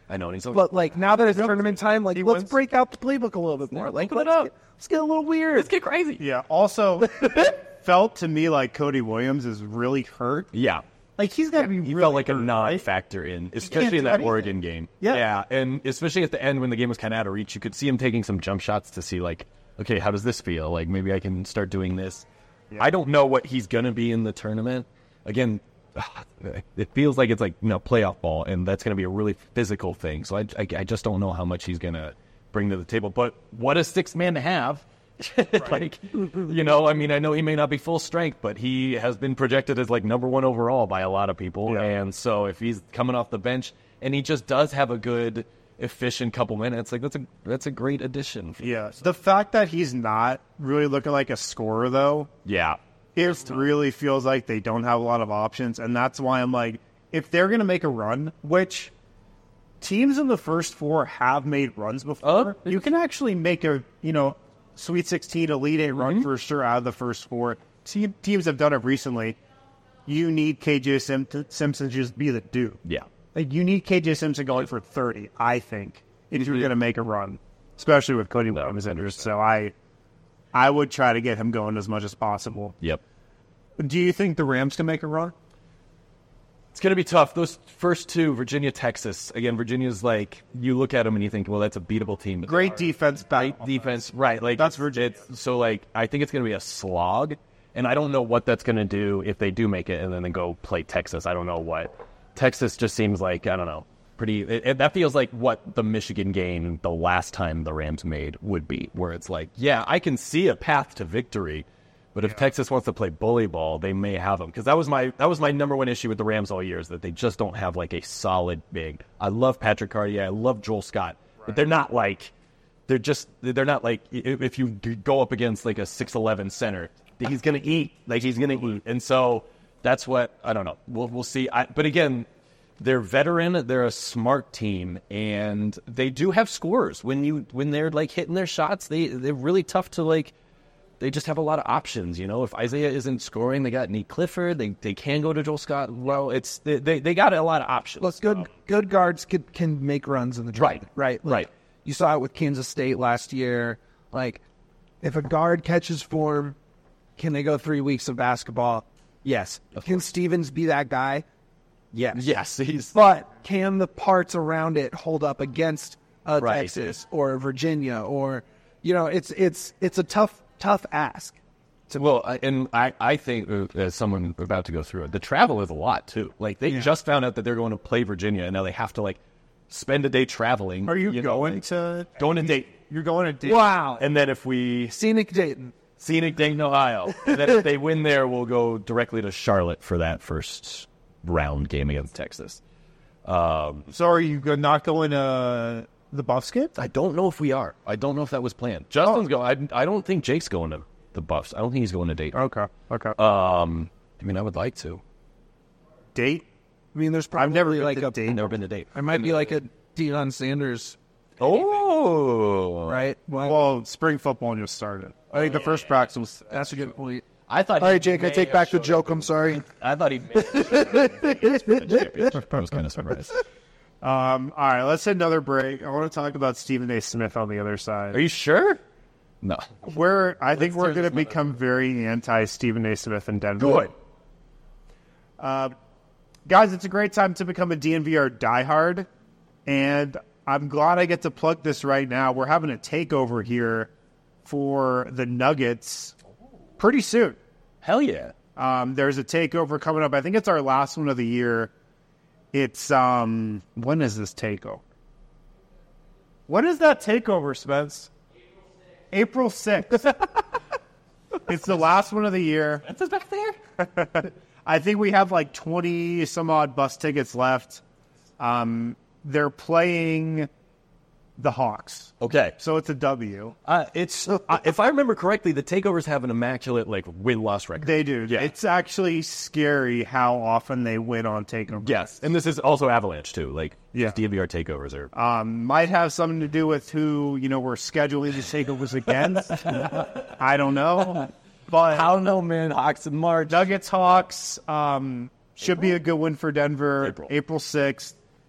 I know. And he's But like now that it's tournament time, like let's break out the playbook a little bit more. Like let's get a little weird. let's get crazy. Yeah. Also, felt to me like Cody Williams is really hurt. Yeah. Like he's got to be. He really felt like a hurt, non-factor in, especially in do that anything. Oregon game. Yeah. And especially at the end when the game was kind of out of reach, you could see him taking some jump shots to see, like, okay, how does this feel? Like, maybe I can start doing this. Yeah. I don't know what he's going to be in the tournament. Again, it feels like it's like, playoff ball, and that's going to be a really physical thing. So I just don't know how much he's going to bring to the table. But what a sixth man to have. Like, I mean, I know he may not be full strength, but he has been projected as like number 1 overall by a lot of people. Yeah. And so if he's coming off the bench and he just does have a good, efficient couple minutes, like that's a great addition. Yeah. The fact that he's not really looking like a scorer, though. Yeah. It really feels like they don't have a lot of options. And that's why I'm like, if they're going to make a run, which teams in the first 4 have made runs before, you can actually make a, Sweet 16, Elite 8 run for sure out of the first 4. Teams have done it recently. You need KJ Simpson to just be the dude. Yeah. Like, you need KJ Simpson going for 30, I think, if you're going to make a run, especially with Cody Williams injured. So I would try to get him going as much as possible. Yep. Do you think the Rams can make a run? It's going to be tough. Those first 2, Virginia, Texas. Again, Virginia's like, you look at them and you think, well, that's a beatable team. Great defense. Great defense. Right. Like, that's Virginia. So, like, I think it's going to be a slog. And I don't know what that's going to do if they do make it and then they go play Texas. I don't know what. Texas just seems like, I don't know, that feels like what the Michigan game the last time the Rams made would be, where it's like, yeah, I can see a path to victory. But if Texas wants to play bully ball, they may have them. Because that was my number 1 issue with the Rams all year, is that they just don't have like a solid big. I love Patrick Cartier. I love Joel Scott. Right. But they're not like if you go up against like a 6'11" center, he's going to eat. Like, he's going to eat. And so that's what, I don't know. We'll see. But again, they're veteran. They're a smart team. And they do have scorers. When they're like hitting their shots, they're really tough to like. They just have a lot of options, If Isaiah isn't scoring, they got Nick Clifford. They can go to Joel Scott. Well, they got a lot of options. Look, good guards can make runs in the draft. Right. Right. You saw it with Kansas State last year. Like, if a guard catches form, can they go 3 weeks of basketball? Yes. Can Stevens be that guy? Yes. Yes. But can the parts around it hold up against Texas or Virginia or, it's a tough ask. Well, I think, as someone about to go through it, the travel is a lot, too. Like, they just found out that they're going to play Virginia, and now they have to, like, spend a day traveling. Are you going to Dayton? You're going to Dayton. Wow. And then if we... Scenic Dayton, Ohio. And then if they win there, we'll go directly to Charlotte for that first round game against Texas. So are you not going to the Buffs game? I don't know if we are. I don't know if that was planned. Justin's going. I don't think Jake's going to the Buffs. I don't think he's going to Dayton. Okay. I mean, I would like to. Date? I mean, there's probably I've never been to Dayton. I might be like a Deion Sanders. Oh, right. Well, spring football just started. I think the first practice was. That's a good point. I thought. All right, Jake, I take back the joke. I'm sorry. I thought he made it. I was kind of surprised. All right, let's hit another break. I want to talk about Stephen A. Smith on the other side. Are you sure? No. I think we're going to become very anti-Stephen A. Smith in Denver. Good. Guys, it's a great time to become a DNVR diehard, and I'm glad I get to plug this right now. We're having a takeover here for the Nuggets pretty soon. Hell yeah. There's a takeover coming up. I think it's our last one of the year. It's, when is this takeover? When is that takeover, Spence? April 6th. It's the last one of the year. That's back there. I think we have like 20 some odd bus tickets left. They're playing the Hawks. Okay. So it's a W. It's if I remember correctly, the takeovers have an immaculate like win-loss record. They do. Yeah. It's actually scary how often they win on takeovers. Yes, and this is also Avalanche too. Like, yeah, DNVR takeovers are might have something to do with who we're scheduling the takeovers against. I don't know, but I don't know, man. Hawks in March. Nuggets Hawks should be a good win for Denver. April 6th.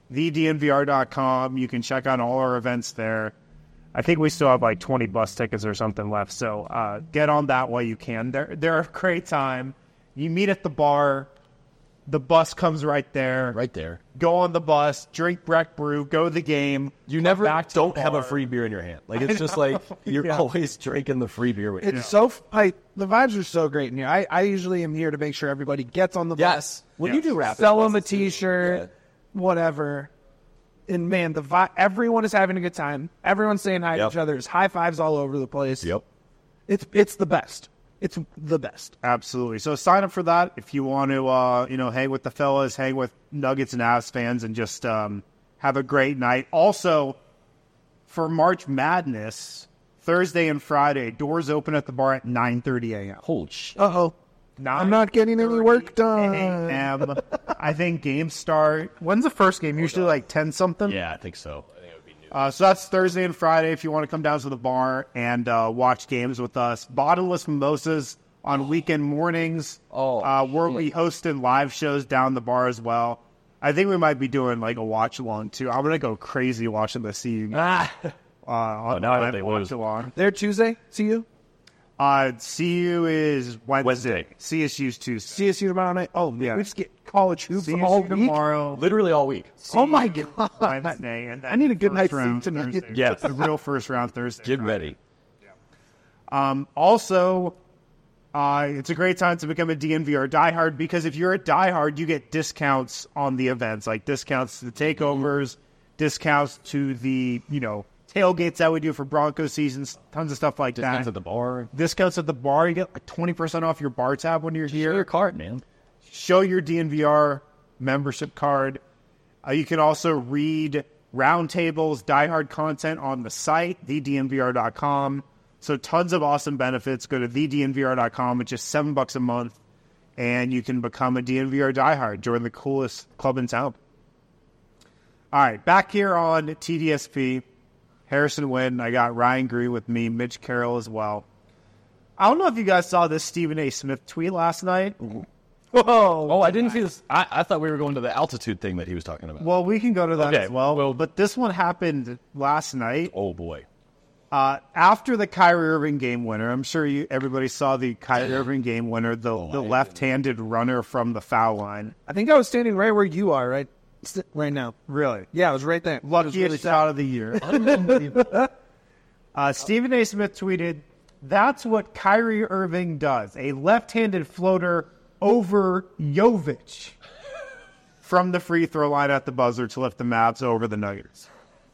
thednvr.com. You can check out all our events there. I think we still have like 20 bus tickets or something left, so get on that while you can. They're a great time. You meet at the bar. The bus comes right there. Right there. Go on the bus, drink Breck Brew, go to the game. You never don't the have a bar. free beer in your hand. Like, it's just like you're always drinking the free beer with you. It's so the vibes are so great in here. I usually am here to make sure everybody gets on the bus. Yes. When you do Rapids, Sell them a T-shirt, whatever. And man, everyone is having a good time. Everyone's saying hi to each other. There's high fives all over the place. Yep. It's the best. It's the best. Absolutely. So sign up for that if you want to, hang with the fellas, hang with Nuggets and Avs fans, and just have a great night. Also, for March Madness, Thursday and Friday, doors open at the bar at 9:30 a.m. Holy shit. Uh-oh. I'm not getting any work done. a.m. I think games start. When's the first game? Usually like 10 something. Yeah, I think so. I think it would be new. So that's Thursday and Friday if you want to come down to the bar and watch games with us. Bottomless mimosas on weekend mornings. We'll be hosting live shows down the bar as well. I think we might be doing like a watch along too. I'm gonna go crazy watching the CU. now I hope they lose. Along. They're Tuesday, CU? CU is Wednesday. Wednesday. CSU's Tuesday. CSU tomorrow night? Oh, Yeah. we just get college hoops CSU all week? tomorrow. Literally all week. Oh, my God. Wednesday, and then I need a good first night's sleep round tonight. Thursday. Yes. The real first round Thursday. Get ready. Also, it's a great time to become a DNVR diehard because if you're a diehard, you get discounts on the events, like discounts to the takeovers, discounts to the, tailgates that we do for Broncos seasons, tons of stuff like Discounts that. at the bar. Discounts at the bar. You get like 20% off your bar tab when you're Show your here. card, man. Show your DNVR membership card. You can also read roundtables, diehard content on the site, thednvr.com. So tons of awesome benefits. Go to thednvr.com. It's just $7 a month, and you can become a DNVR diehard. Join the coolest club in town. All right, back here on TDSP, Harrison Wynn. I got Ryan Green with me, Mitch Carroll as well. I don't know if you guys saw this Stephen A. Smith tweet last night. Whoa. Oh, I didn't see this. I thought we were going to the altitude thing that he was talking about. Well, we can go to that Okay, as well. well- But this one happened last night. Oh, boy. After the Kyrie Irving game winner, I'm sure everybody saw the Kyrie Irving game winner, the left-handed runner from the foul line. I think I was standing right where you are, right? Right now. Really? Yeah, I was right there. Luckiest shot of the year. Stephen A. Smith tweeted, "That's what Kyrie Irving does. A left-handed floater over Jovic from the free throw line at the buzzer to lift the Mavs over the Nuggets."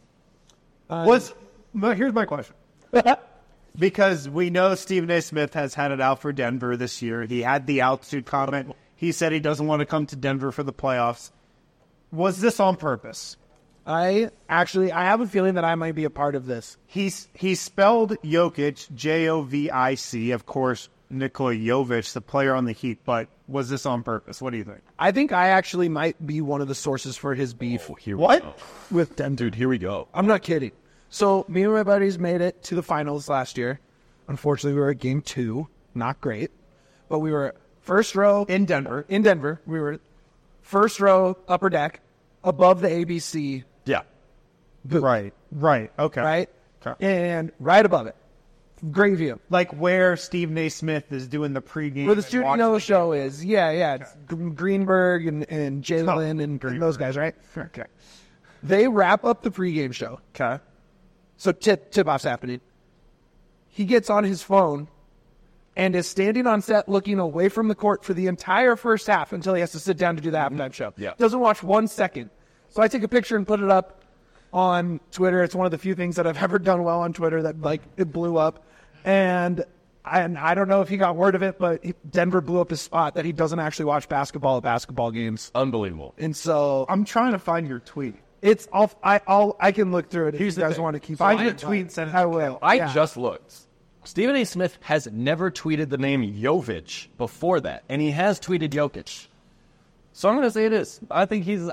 Here's my question. Because we know Stephen A. Smith has had it out for Denver this year. He had the altitude comment. He said he doesn't want to come to Denver for the playoffs. Was this on purpose? I have a feeling that I might be a part of this. He spelled Jokic, Jovic, of course, Nikola Jovic, the player on the Heat, but was this on purpose? What do you think? I think I actually might be one of the sources for his beef What? with Denver. Dude, here we go. I'm not kidding. So me and my buddies made it to the finals last year. Unfortunately, we were at game 2. Not great. But we were first row In Denver. We were first row, upper deck, above the ABC Yeah. booth. Right. Okay. Right? Okay. And right above it. Great view. Like where Stephen A. Smith is doing the pregame. Where the and Studio watching the show is. Yeah. It's Greenberg and Jalen and those guys, right? game. Okay. They wrap up the pregame show. Okay. So tip-off's happening. He gets on his phone and is standing on set looking away from the court for the entire first half until he has to sit down to do the halftime show. Yeah. Doesn't watch 1 second. So I take a picture and put it up on Twitter. It's one of the few things that I've ever done well on Twitter that, it blew up. And I don't know if he got word of it, but Denver blew up his spot that he doesn't actually watch basketball at basketball games. Unbelievable. And so I'm trying to find your tweet. it's off. I can look through it if you guys want to keep Find it. your tweet and send it. I will. I Yeah. just looked. Stephen A. Smith has never tweeted the name Jovic before that, and he has tweeted Jokic. So I'm going to say it is. I think this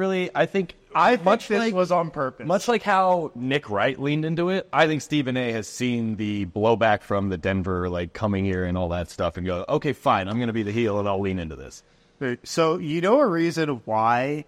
was on purpose. Much like how Nick Wright leaned into it, I think Stephen A. has seen the blowback from the Denver, coming here and all that stuff and go, okay, fine, I'm going to be the heel and I'll lean into this. So you know a reason why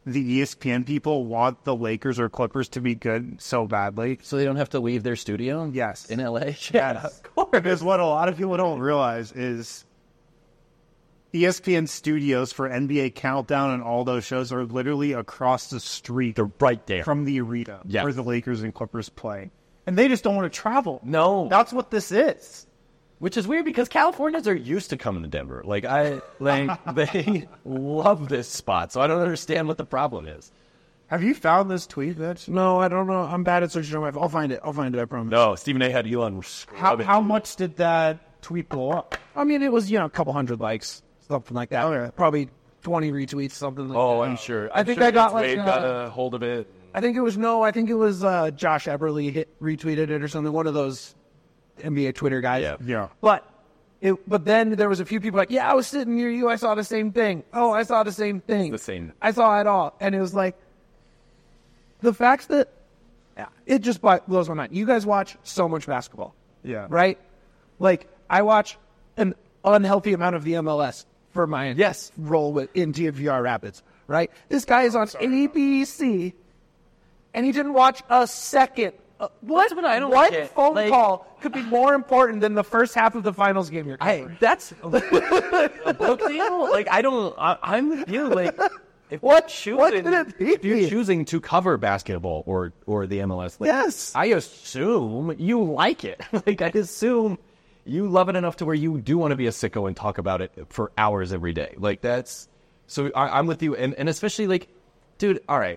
the ESPN people want the Lakers or Clippers to be good so badly. So they don't have to leave their studio? Yes. In LA? Yes. Of course. Because what a lot of people don't realize is ESPN studios for NBA Countdown and all those shows are literally across the street. They're right there. From the arena Yes. where the Lakers and Clippers play. And they just don't want to travel. No. That's what this is. Which is weird because Californians are used to coming to Denver. They love this spot. So I don't understand what the problem is. Have you found this tweet, Mitch? No, I don't know. I'm bad at searching on my phone. I'll find it. I promise. No, Stephen A. had Elon scrubbing. How much did that tweet blow up? I mean, it was, a couple hundred likes, something like that. Okay. Probably 20 retweets, something like that. Oh, I'm sure. I think I got Wade like, got a hold of it. I think it was Josh Eberly retweeted it or something. One of those NBA Twitter guys. Yeah. Yeah. But then there was a few people like, yeah, I was sitting near you. I saw the same thing. Oh, I saw the same thing. The same. I saw it all. And it was like, the facts that it just blows my mind. You guys watch so much basketball. Yeah. Right? Like, I watch an unhealthy amount of the MLS for my role in DNVR Rapids. Right? This guy is on ABC, and he didn't watch a second. What phone call could be more important than the first half of the finals game you're covering? That's a book deal. I'm with you. Like, if What could it be? if you're choosing to cover basketball or the MLS, Yes. I assume you like it. I assume you love it enough to where you do want to be a sicko and talk about it for hours every day. So I'm with you, and especially dude. All right,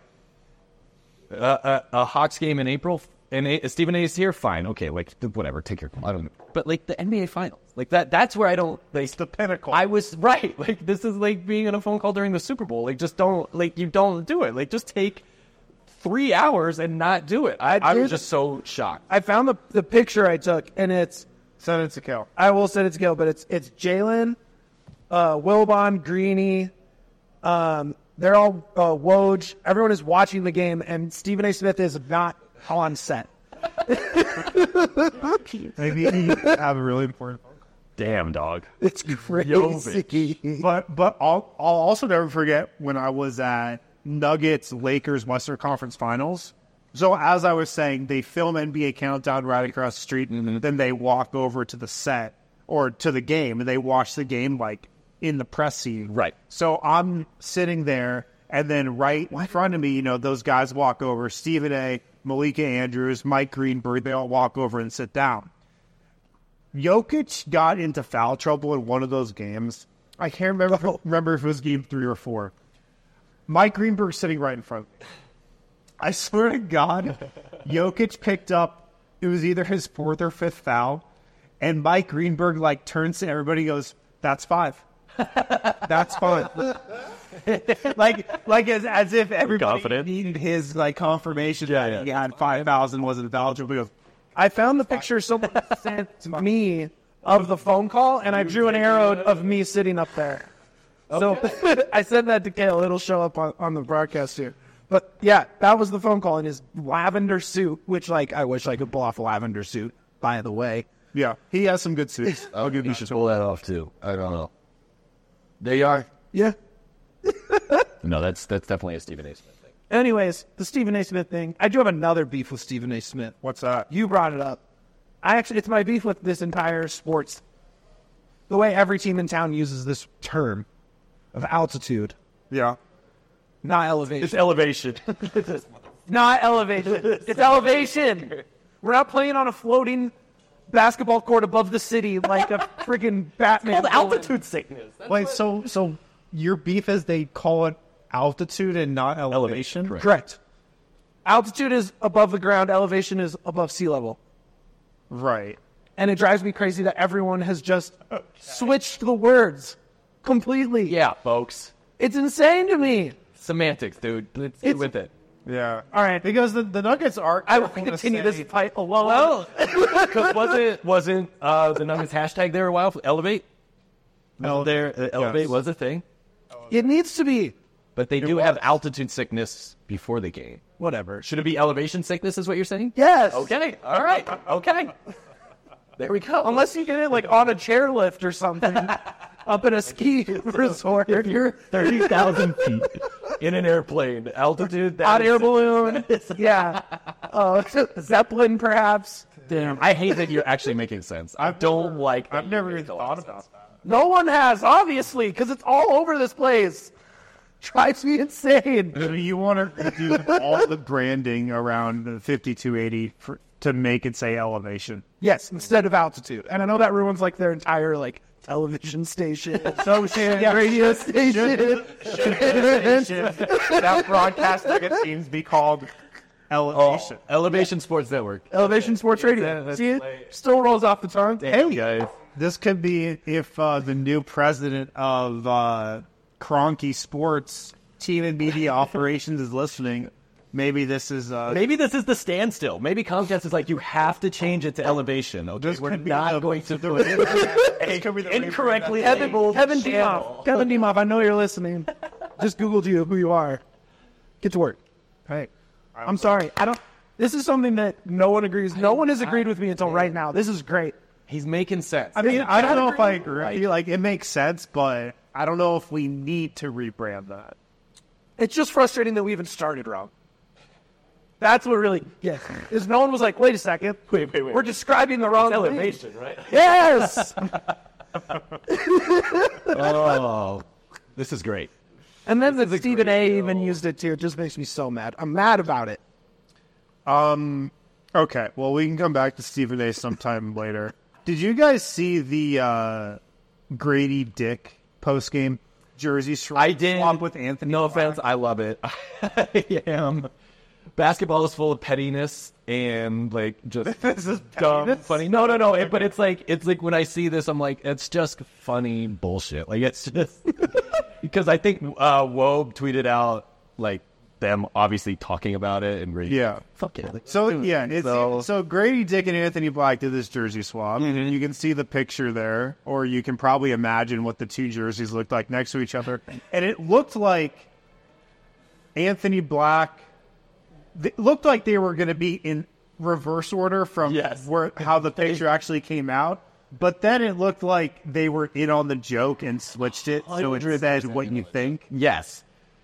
a Hawks game in April. And Stephen A is here, fine, okay, whatever, take your call. I don't know. But the NBA Finals, that's where I don't It's the pinnacle. I was right. This is like being on a phone call during the Super Bowl. Just don't you don't do it. Just take 3 hours and not do it. I was just so shocked. I found the picture I took, and it's Send it to Kel. I will send it to Gil, but it's Jalen, Wilbon, Greeny, they're all Woj. Everyone is watching the game, and Stephen A. Smith is not on set. Maybe you have a really important phone call. Damn, dog. It's crazy. But I'll also never forget when I was at Nuggets Lakers Western Conference Finals. So as I was saying, they film NBA Countdown right across the street, and then they walk over to the set or to the game, and they watch the game in the press seat. Right. So I'm sitting there, and then right in front of me, those guys walk over. Stephen A., Malika Andrews, Mike Greenberg, they all walk over and sit down. Jokic got into foul trouble in one of those games. I can't remember if it was game 3 or 4. Mike Greenberg's sitting right in front of me. I swear to God, Jokic picked up, it was either his 4th or 5th foul, and Mike Greenberg turns to everybody and goes, "That's 5. That's fine." as if everybody Confident. needed his confirmation that he had 5,000 wasn't eligible. He goes, I found the picture someone sent to me of the phone call, and I drew an arrow of me sitting up there. So I sent that to Kale. It'll show up on the broadcast here. But yeah, that was the phone call in his lavender suit, which I wish I could pull off a lavender suit, by the way. yeah, he has some good suits. I'll give You you should pull that off too. I don't know. There you are. Yeah. No, that's definitely a Stephen A. Smith thing. Anyways, the Stephen A. Smith thing. I do have another beef with Stephen A. Smith. What's that? You brought it up. It's my beef with this entire sports. The way every team in town uses this term of altitude, Yeah. not elevation. It's elevation. Not elevation. It's elevation. We're not playing on a floating basketball court above the city like a freaking Batman. Called altitude sickness. Wait, so your beef is they call it altitude and not elevation? Correct. Altitude is above the ground. Elevation is above sea level. Right. And it drives me crazy that everyone has just switched the words completely. Yeah, folks. It's insane to me. Semantics, dude. Let's get with it. Yeah. All right. Because the Nuggets are. I will continue this fight alone. Because wasn't the Nuggets hashtag there a while? Elevate? Elevate was a thing. It needs to be. But they do have altitude sickness before the game. Whatever. Should it be elevation sickness is what you're saying? Yes. Okay. All right. Okay. There we go. Unless you get it on a chairlift or something up in a ski resort. If you're 30,000 feet in an airplane. Altitude. Hot air balloon. Yeah. Zeppelin, perhaps. Damn. I hate that you're actually making sense. I don't like that. I've never even thought about that. No one has, obviously, because it's all over this place. Drives me insane. You want to do all the branding around the 5280 to make it say elevation. Yes, instead of altitude. And I know that ruins like their entire like television station, radio station. That broadcast seems to be called elevation. Elevation Sports Network. Elevation Sports Radio. See it? Still rolls off the tongue. Hey guys, this could be if the new president of Kroenke Sports Team and Media Operations is listening. Maybe this is the standstill. Maybe Comcast is like, you have to change it to elevation. Okay, we're not going to do it. Incorrectly labeled Kevin channel. Demoff. Kevin Demoff, I know you're listening. Just Googled you, who you are. Get to work. Hey, I'm sorry. This is something that no one agrees. No one has agreed with me until right now. This is great. He's making sense. I mean, I don't know if I agree. I feel like it makes sense, but I don't know if we need to rebrand that. It's just frustrating that we even started wrong. That's what really, is no one was like, wait a second. Wait. We're describing the wrong thing. Elevation, right? Yes! Oh, this is great. And then that Stephen A. even used it too. It just makes me so mad. I'm mad about it. Okay, well, we can come back to Stephen A. sometime later. Did you guys see the Grady Dick post-game jersey swap? I did. With Anthony. No offense, I love it. I am. Basketball is full of pettiness and like just This is dumb, pettiness? funny. No. But it's like when I see this, I'm like, it's just funny bullshit. Like it's just because I think Wobe tweeted out like them obviously talking about it and Grady. Yeah. Fuck it. Like, So so Grady Dick and Anthony Black did this jersey swap. Mm-hmm. You can see the picture there, or you can probably imagine what the two jerseys looked like next to each other. And it looked like Anthony Black. It looked like they were going to be in reverse order from how the picture actually came out. But then it looked like they were in on the joke and switched it, so it said what you think. yes.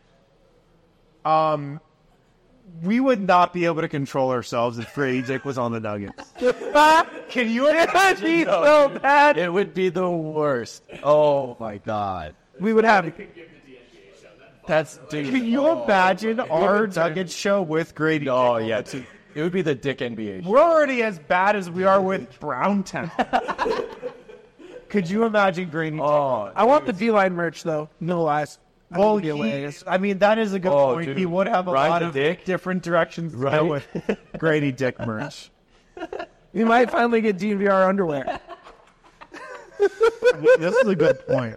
We would not be able to control ourselves if Grady Dick was on the Nuggets. Can you imagine? So bad. It would be the worst. Oh my god. We would have. That's dude. Can you imagine our Nuggets show with Grady Dick? Oh yeah. It would be the Dick NBA. We're already as bad as we are with Browntown. Could you imagine Grady Dick? Oh, I want the D-line merch though. No lies. Well, I mean, that is a good point. Dude. He would have a Ride lot the of dick. different directions to go with Grady Dick merch. We might finally get DNVR underwear. This is a good point.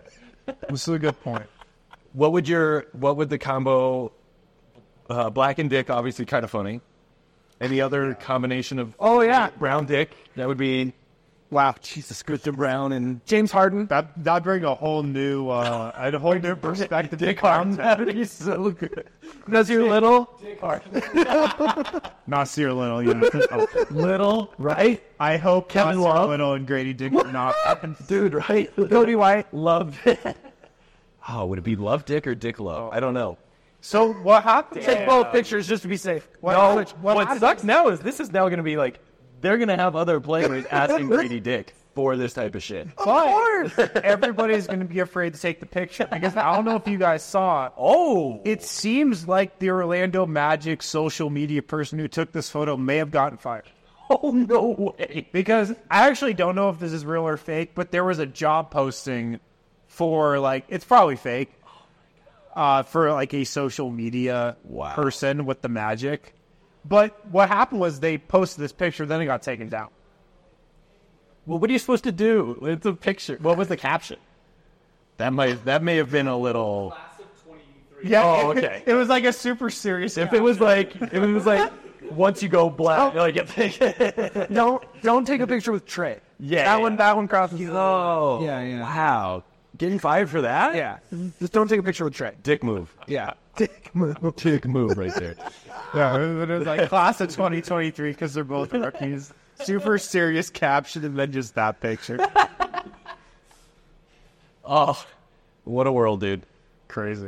What would the combo Black and Dick, obviously kind of funny. Any other combination of Brown Dick? That would be Wow. Jesus Christian Brown and James Harden. That bring a whole new perspective. Dick Harden. That would be so good. Nazir Little. Dick Harden. Nasir Little, yeah. Little, right? I hope Kevin Nasir Love. Little and Grady Dick are not. Dude, right? Cody White. Love it. Oh, would it be Love Dick or Dick Love? I don't know. So what happened? Take both pictures just to be safe. What sucks now is this is now going to be like, they're going to have other players asking Grady Dick for this type of shit. Of course. Everybody's going to be afraid to take the picture because I don't know if you guys saw it. Oh. It seems like the Orlando Magic social media person who took this photo may have gotten fired. Oh, no way. Because I actually don't know if this is real or fake, but there was a job posting for, like, it's probably fake, for, like, a social media person with the Magic. But what happened was they posted this picture, then it got taken down. Well, what are you supposed to do? It's a picture. What was the caption? That may have been a little. Yeah. Oh, okay. It was like a super serious. If it was like once you go black, Don't take a picture with Trey. Yeah. That one crosses. Oh. Yeah. Wow. Getting fired for that? Yeah. Just don't take a picture with Trey. Dick move. Yeah. Dick move right there. Yeah, it was like class of 2023 because they're both rookies. Super serious caption and then just that picture. Oh, what a world, dude. Crazy.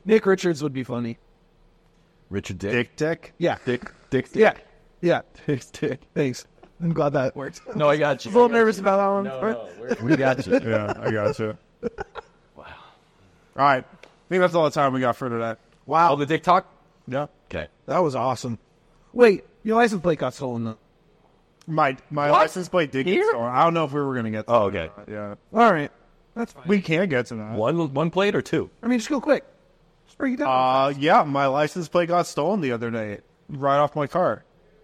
Nick Richards would be funny. Richard Dick. Dick. Yeah. Dick. Yeah. Yeah. Dick. Thanks. I'm glad that worked. No, I got you. A little nervous about that one. We got you. Yeah, I got you. Wow. All right. I think that's all the time we got for today. Wow. Oh, the Dick talk? Yeah. Okay. That was awesome. Wait, your license plate got stolen though. My license plate did get stolen. I don't know if we were going to get to Oh, okay. that. Yeah. All right. That's fine. We can get to that. One plate or two? I mean, just go quick. Just break it down. Yeah, my license plate got stolen the other day. Right off my car.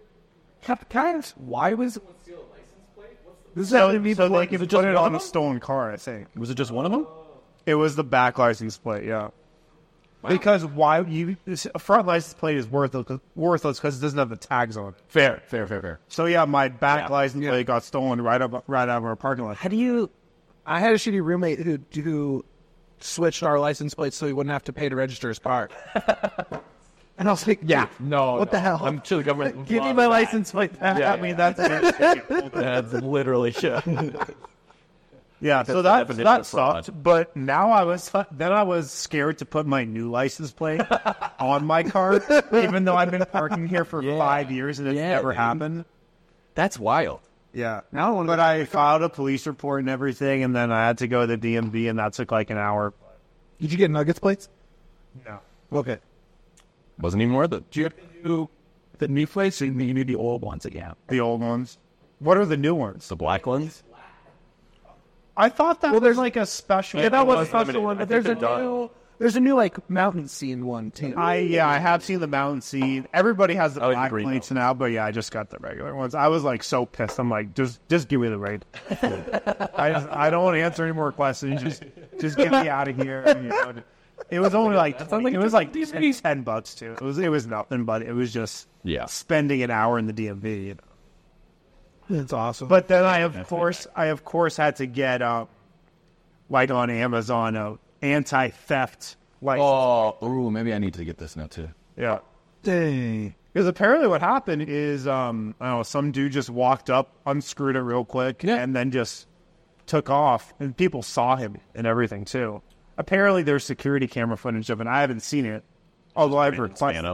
Why was this So, happened to me so they before? can put it on a stolen car, I think. Was it just one of them? It was the back license plate, yeah. Because a front license plate is worthless because it doesn't have the tags on it. Fair. So yeah, my back Yeah. license plate got stolen right out of our parking lot. How do you? I had a shitty roommate who switched our license plates so he wouldn't have to pay to register his car. And I was like, yeah, No. What the hell? I'm sure the government. give me my license plate back. Yeah, I mean that's That's literally yeah. So that sucked. But now I was scared to put my new license plate on my car, even though I've been parking here for 5 years and it's never dude. happened. That's wild. Yeah. But I filed a police report and everything, and then I had to go to the DMV, and that took like an hour. Did you get Nuggets plates? No. Okay. Wasn't even worth it. Do you have to do the new plates or you need the old ones again? The old ones. What are the new ones? The black ones? I thought that was like a special. Yeah, that was a was special limited. one. I But think there's a they're new, there's a new like mountain scene one too. I have seen the mountain scene. Everybody has the I like the black green plates now, but yeah, I just got the regular ones. I was like so pissed. I'm like, just give me the raid. I don't want to answer any more questions. Just get me out of here. You know. It was only like it was like $10 too. It was nothing, but it was just spending an hour in the DMV. You know. That's awesome. But then I of course had to get like on Amazon a anti-theft license. Ooh, maybe I need to get this now too. Yeah. dang. Because apparently what happened is, I don't know, some dude just walked up, unscrewed it real quick, and then just took off. And people saw him and everything, too. Apparently there's security camera footage of it. I haven't seen it. Although I've requested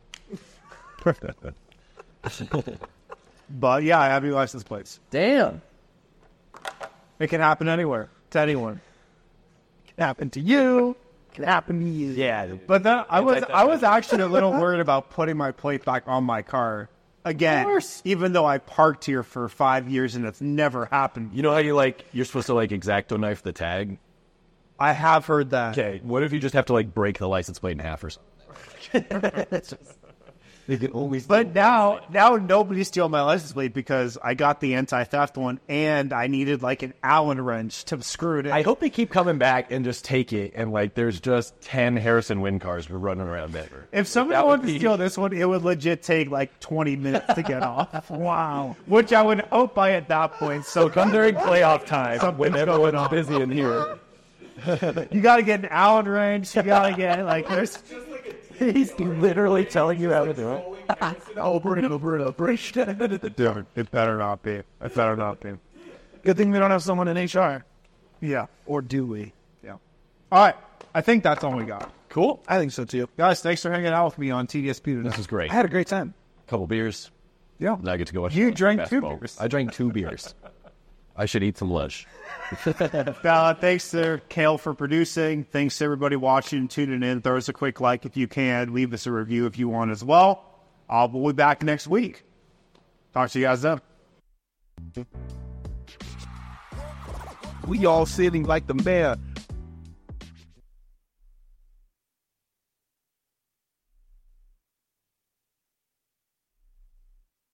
it. But, yeah, I have new license plates. Damn. It can happen anywhere, to anyone. It can happen to you. It can happen to you. Yeah. But then I was actually a little worried about putting my plate back on my car again, even though I parked here for 5 years and it's never happened. You know how you're supposed to X-Acto knife the tag? I have heard that. Okay, what if you just have to break the license plate in half or something? They can always. But now nobody's stealing my license plate because I got the anti-theft one and I needed an Allen wrench to screw it in. I hope they keep coming back and just take it and there's just 10 Harrison Wind cars running around Denver. If somebody wanted to steal this one, it would legit take 20 minutes to get off. Wow. Which I would hope by at that point. So Come during playoff time when everyone's busy in here. you got to get an Allen wrench. You got to get there's. He's literally telling you how to do it. Over and over and over. Dude, it better not be. It better not be. Good thing we don't have someone in HR. Yeah. Or do we? Yeah. All right. I think that's all we got. Cool. I think so too. Guys, thanks for hanging out with me on TDSP today. This was great. I had a great time. Couple beers. Yeah. Now I get to go watch You drank basketball. 2 beers. I drank 2 beers. I should eat some lunch. Thanks to Kale for producing. Thanks to everybody watching, tuning in. Throw us a quick like if you can. Leave us a review if you want as well. We'll be back next week. Talk to you guys then. We all sitting like the mayor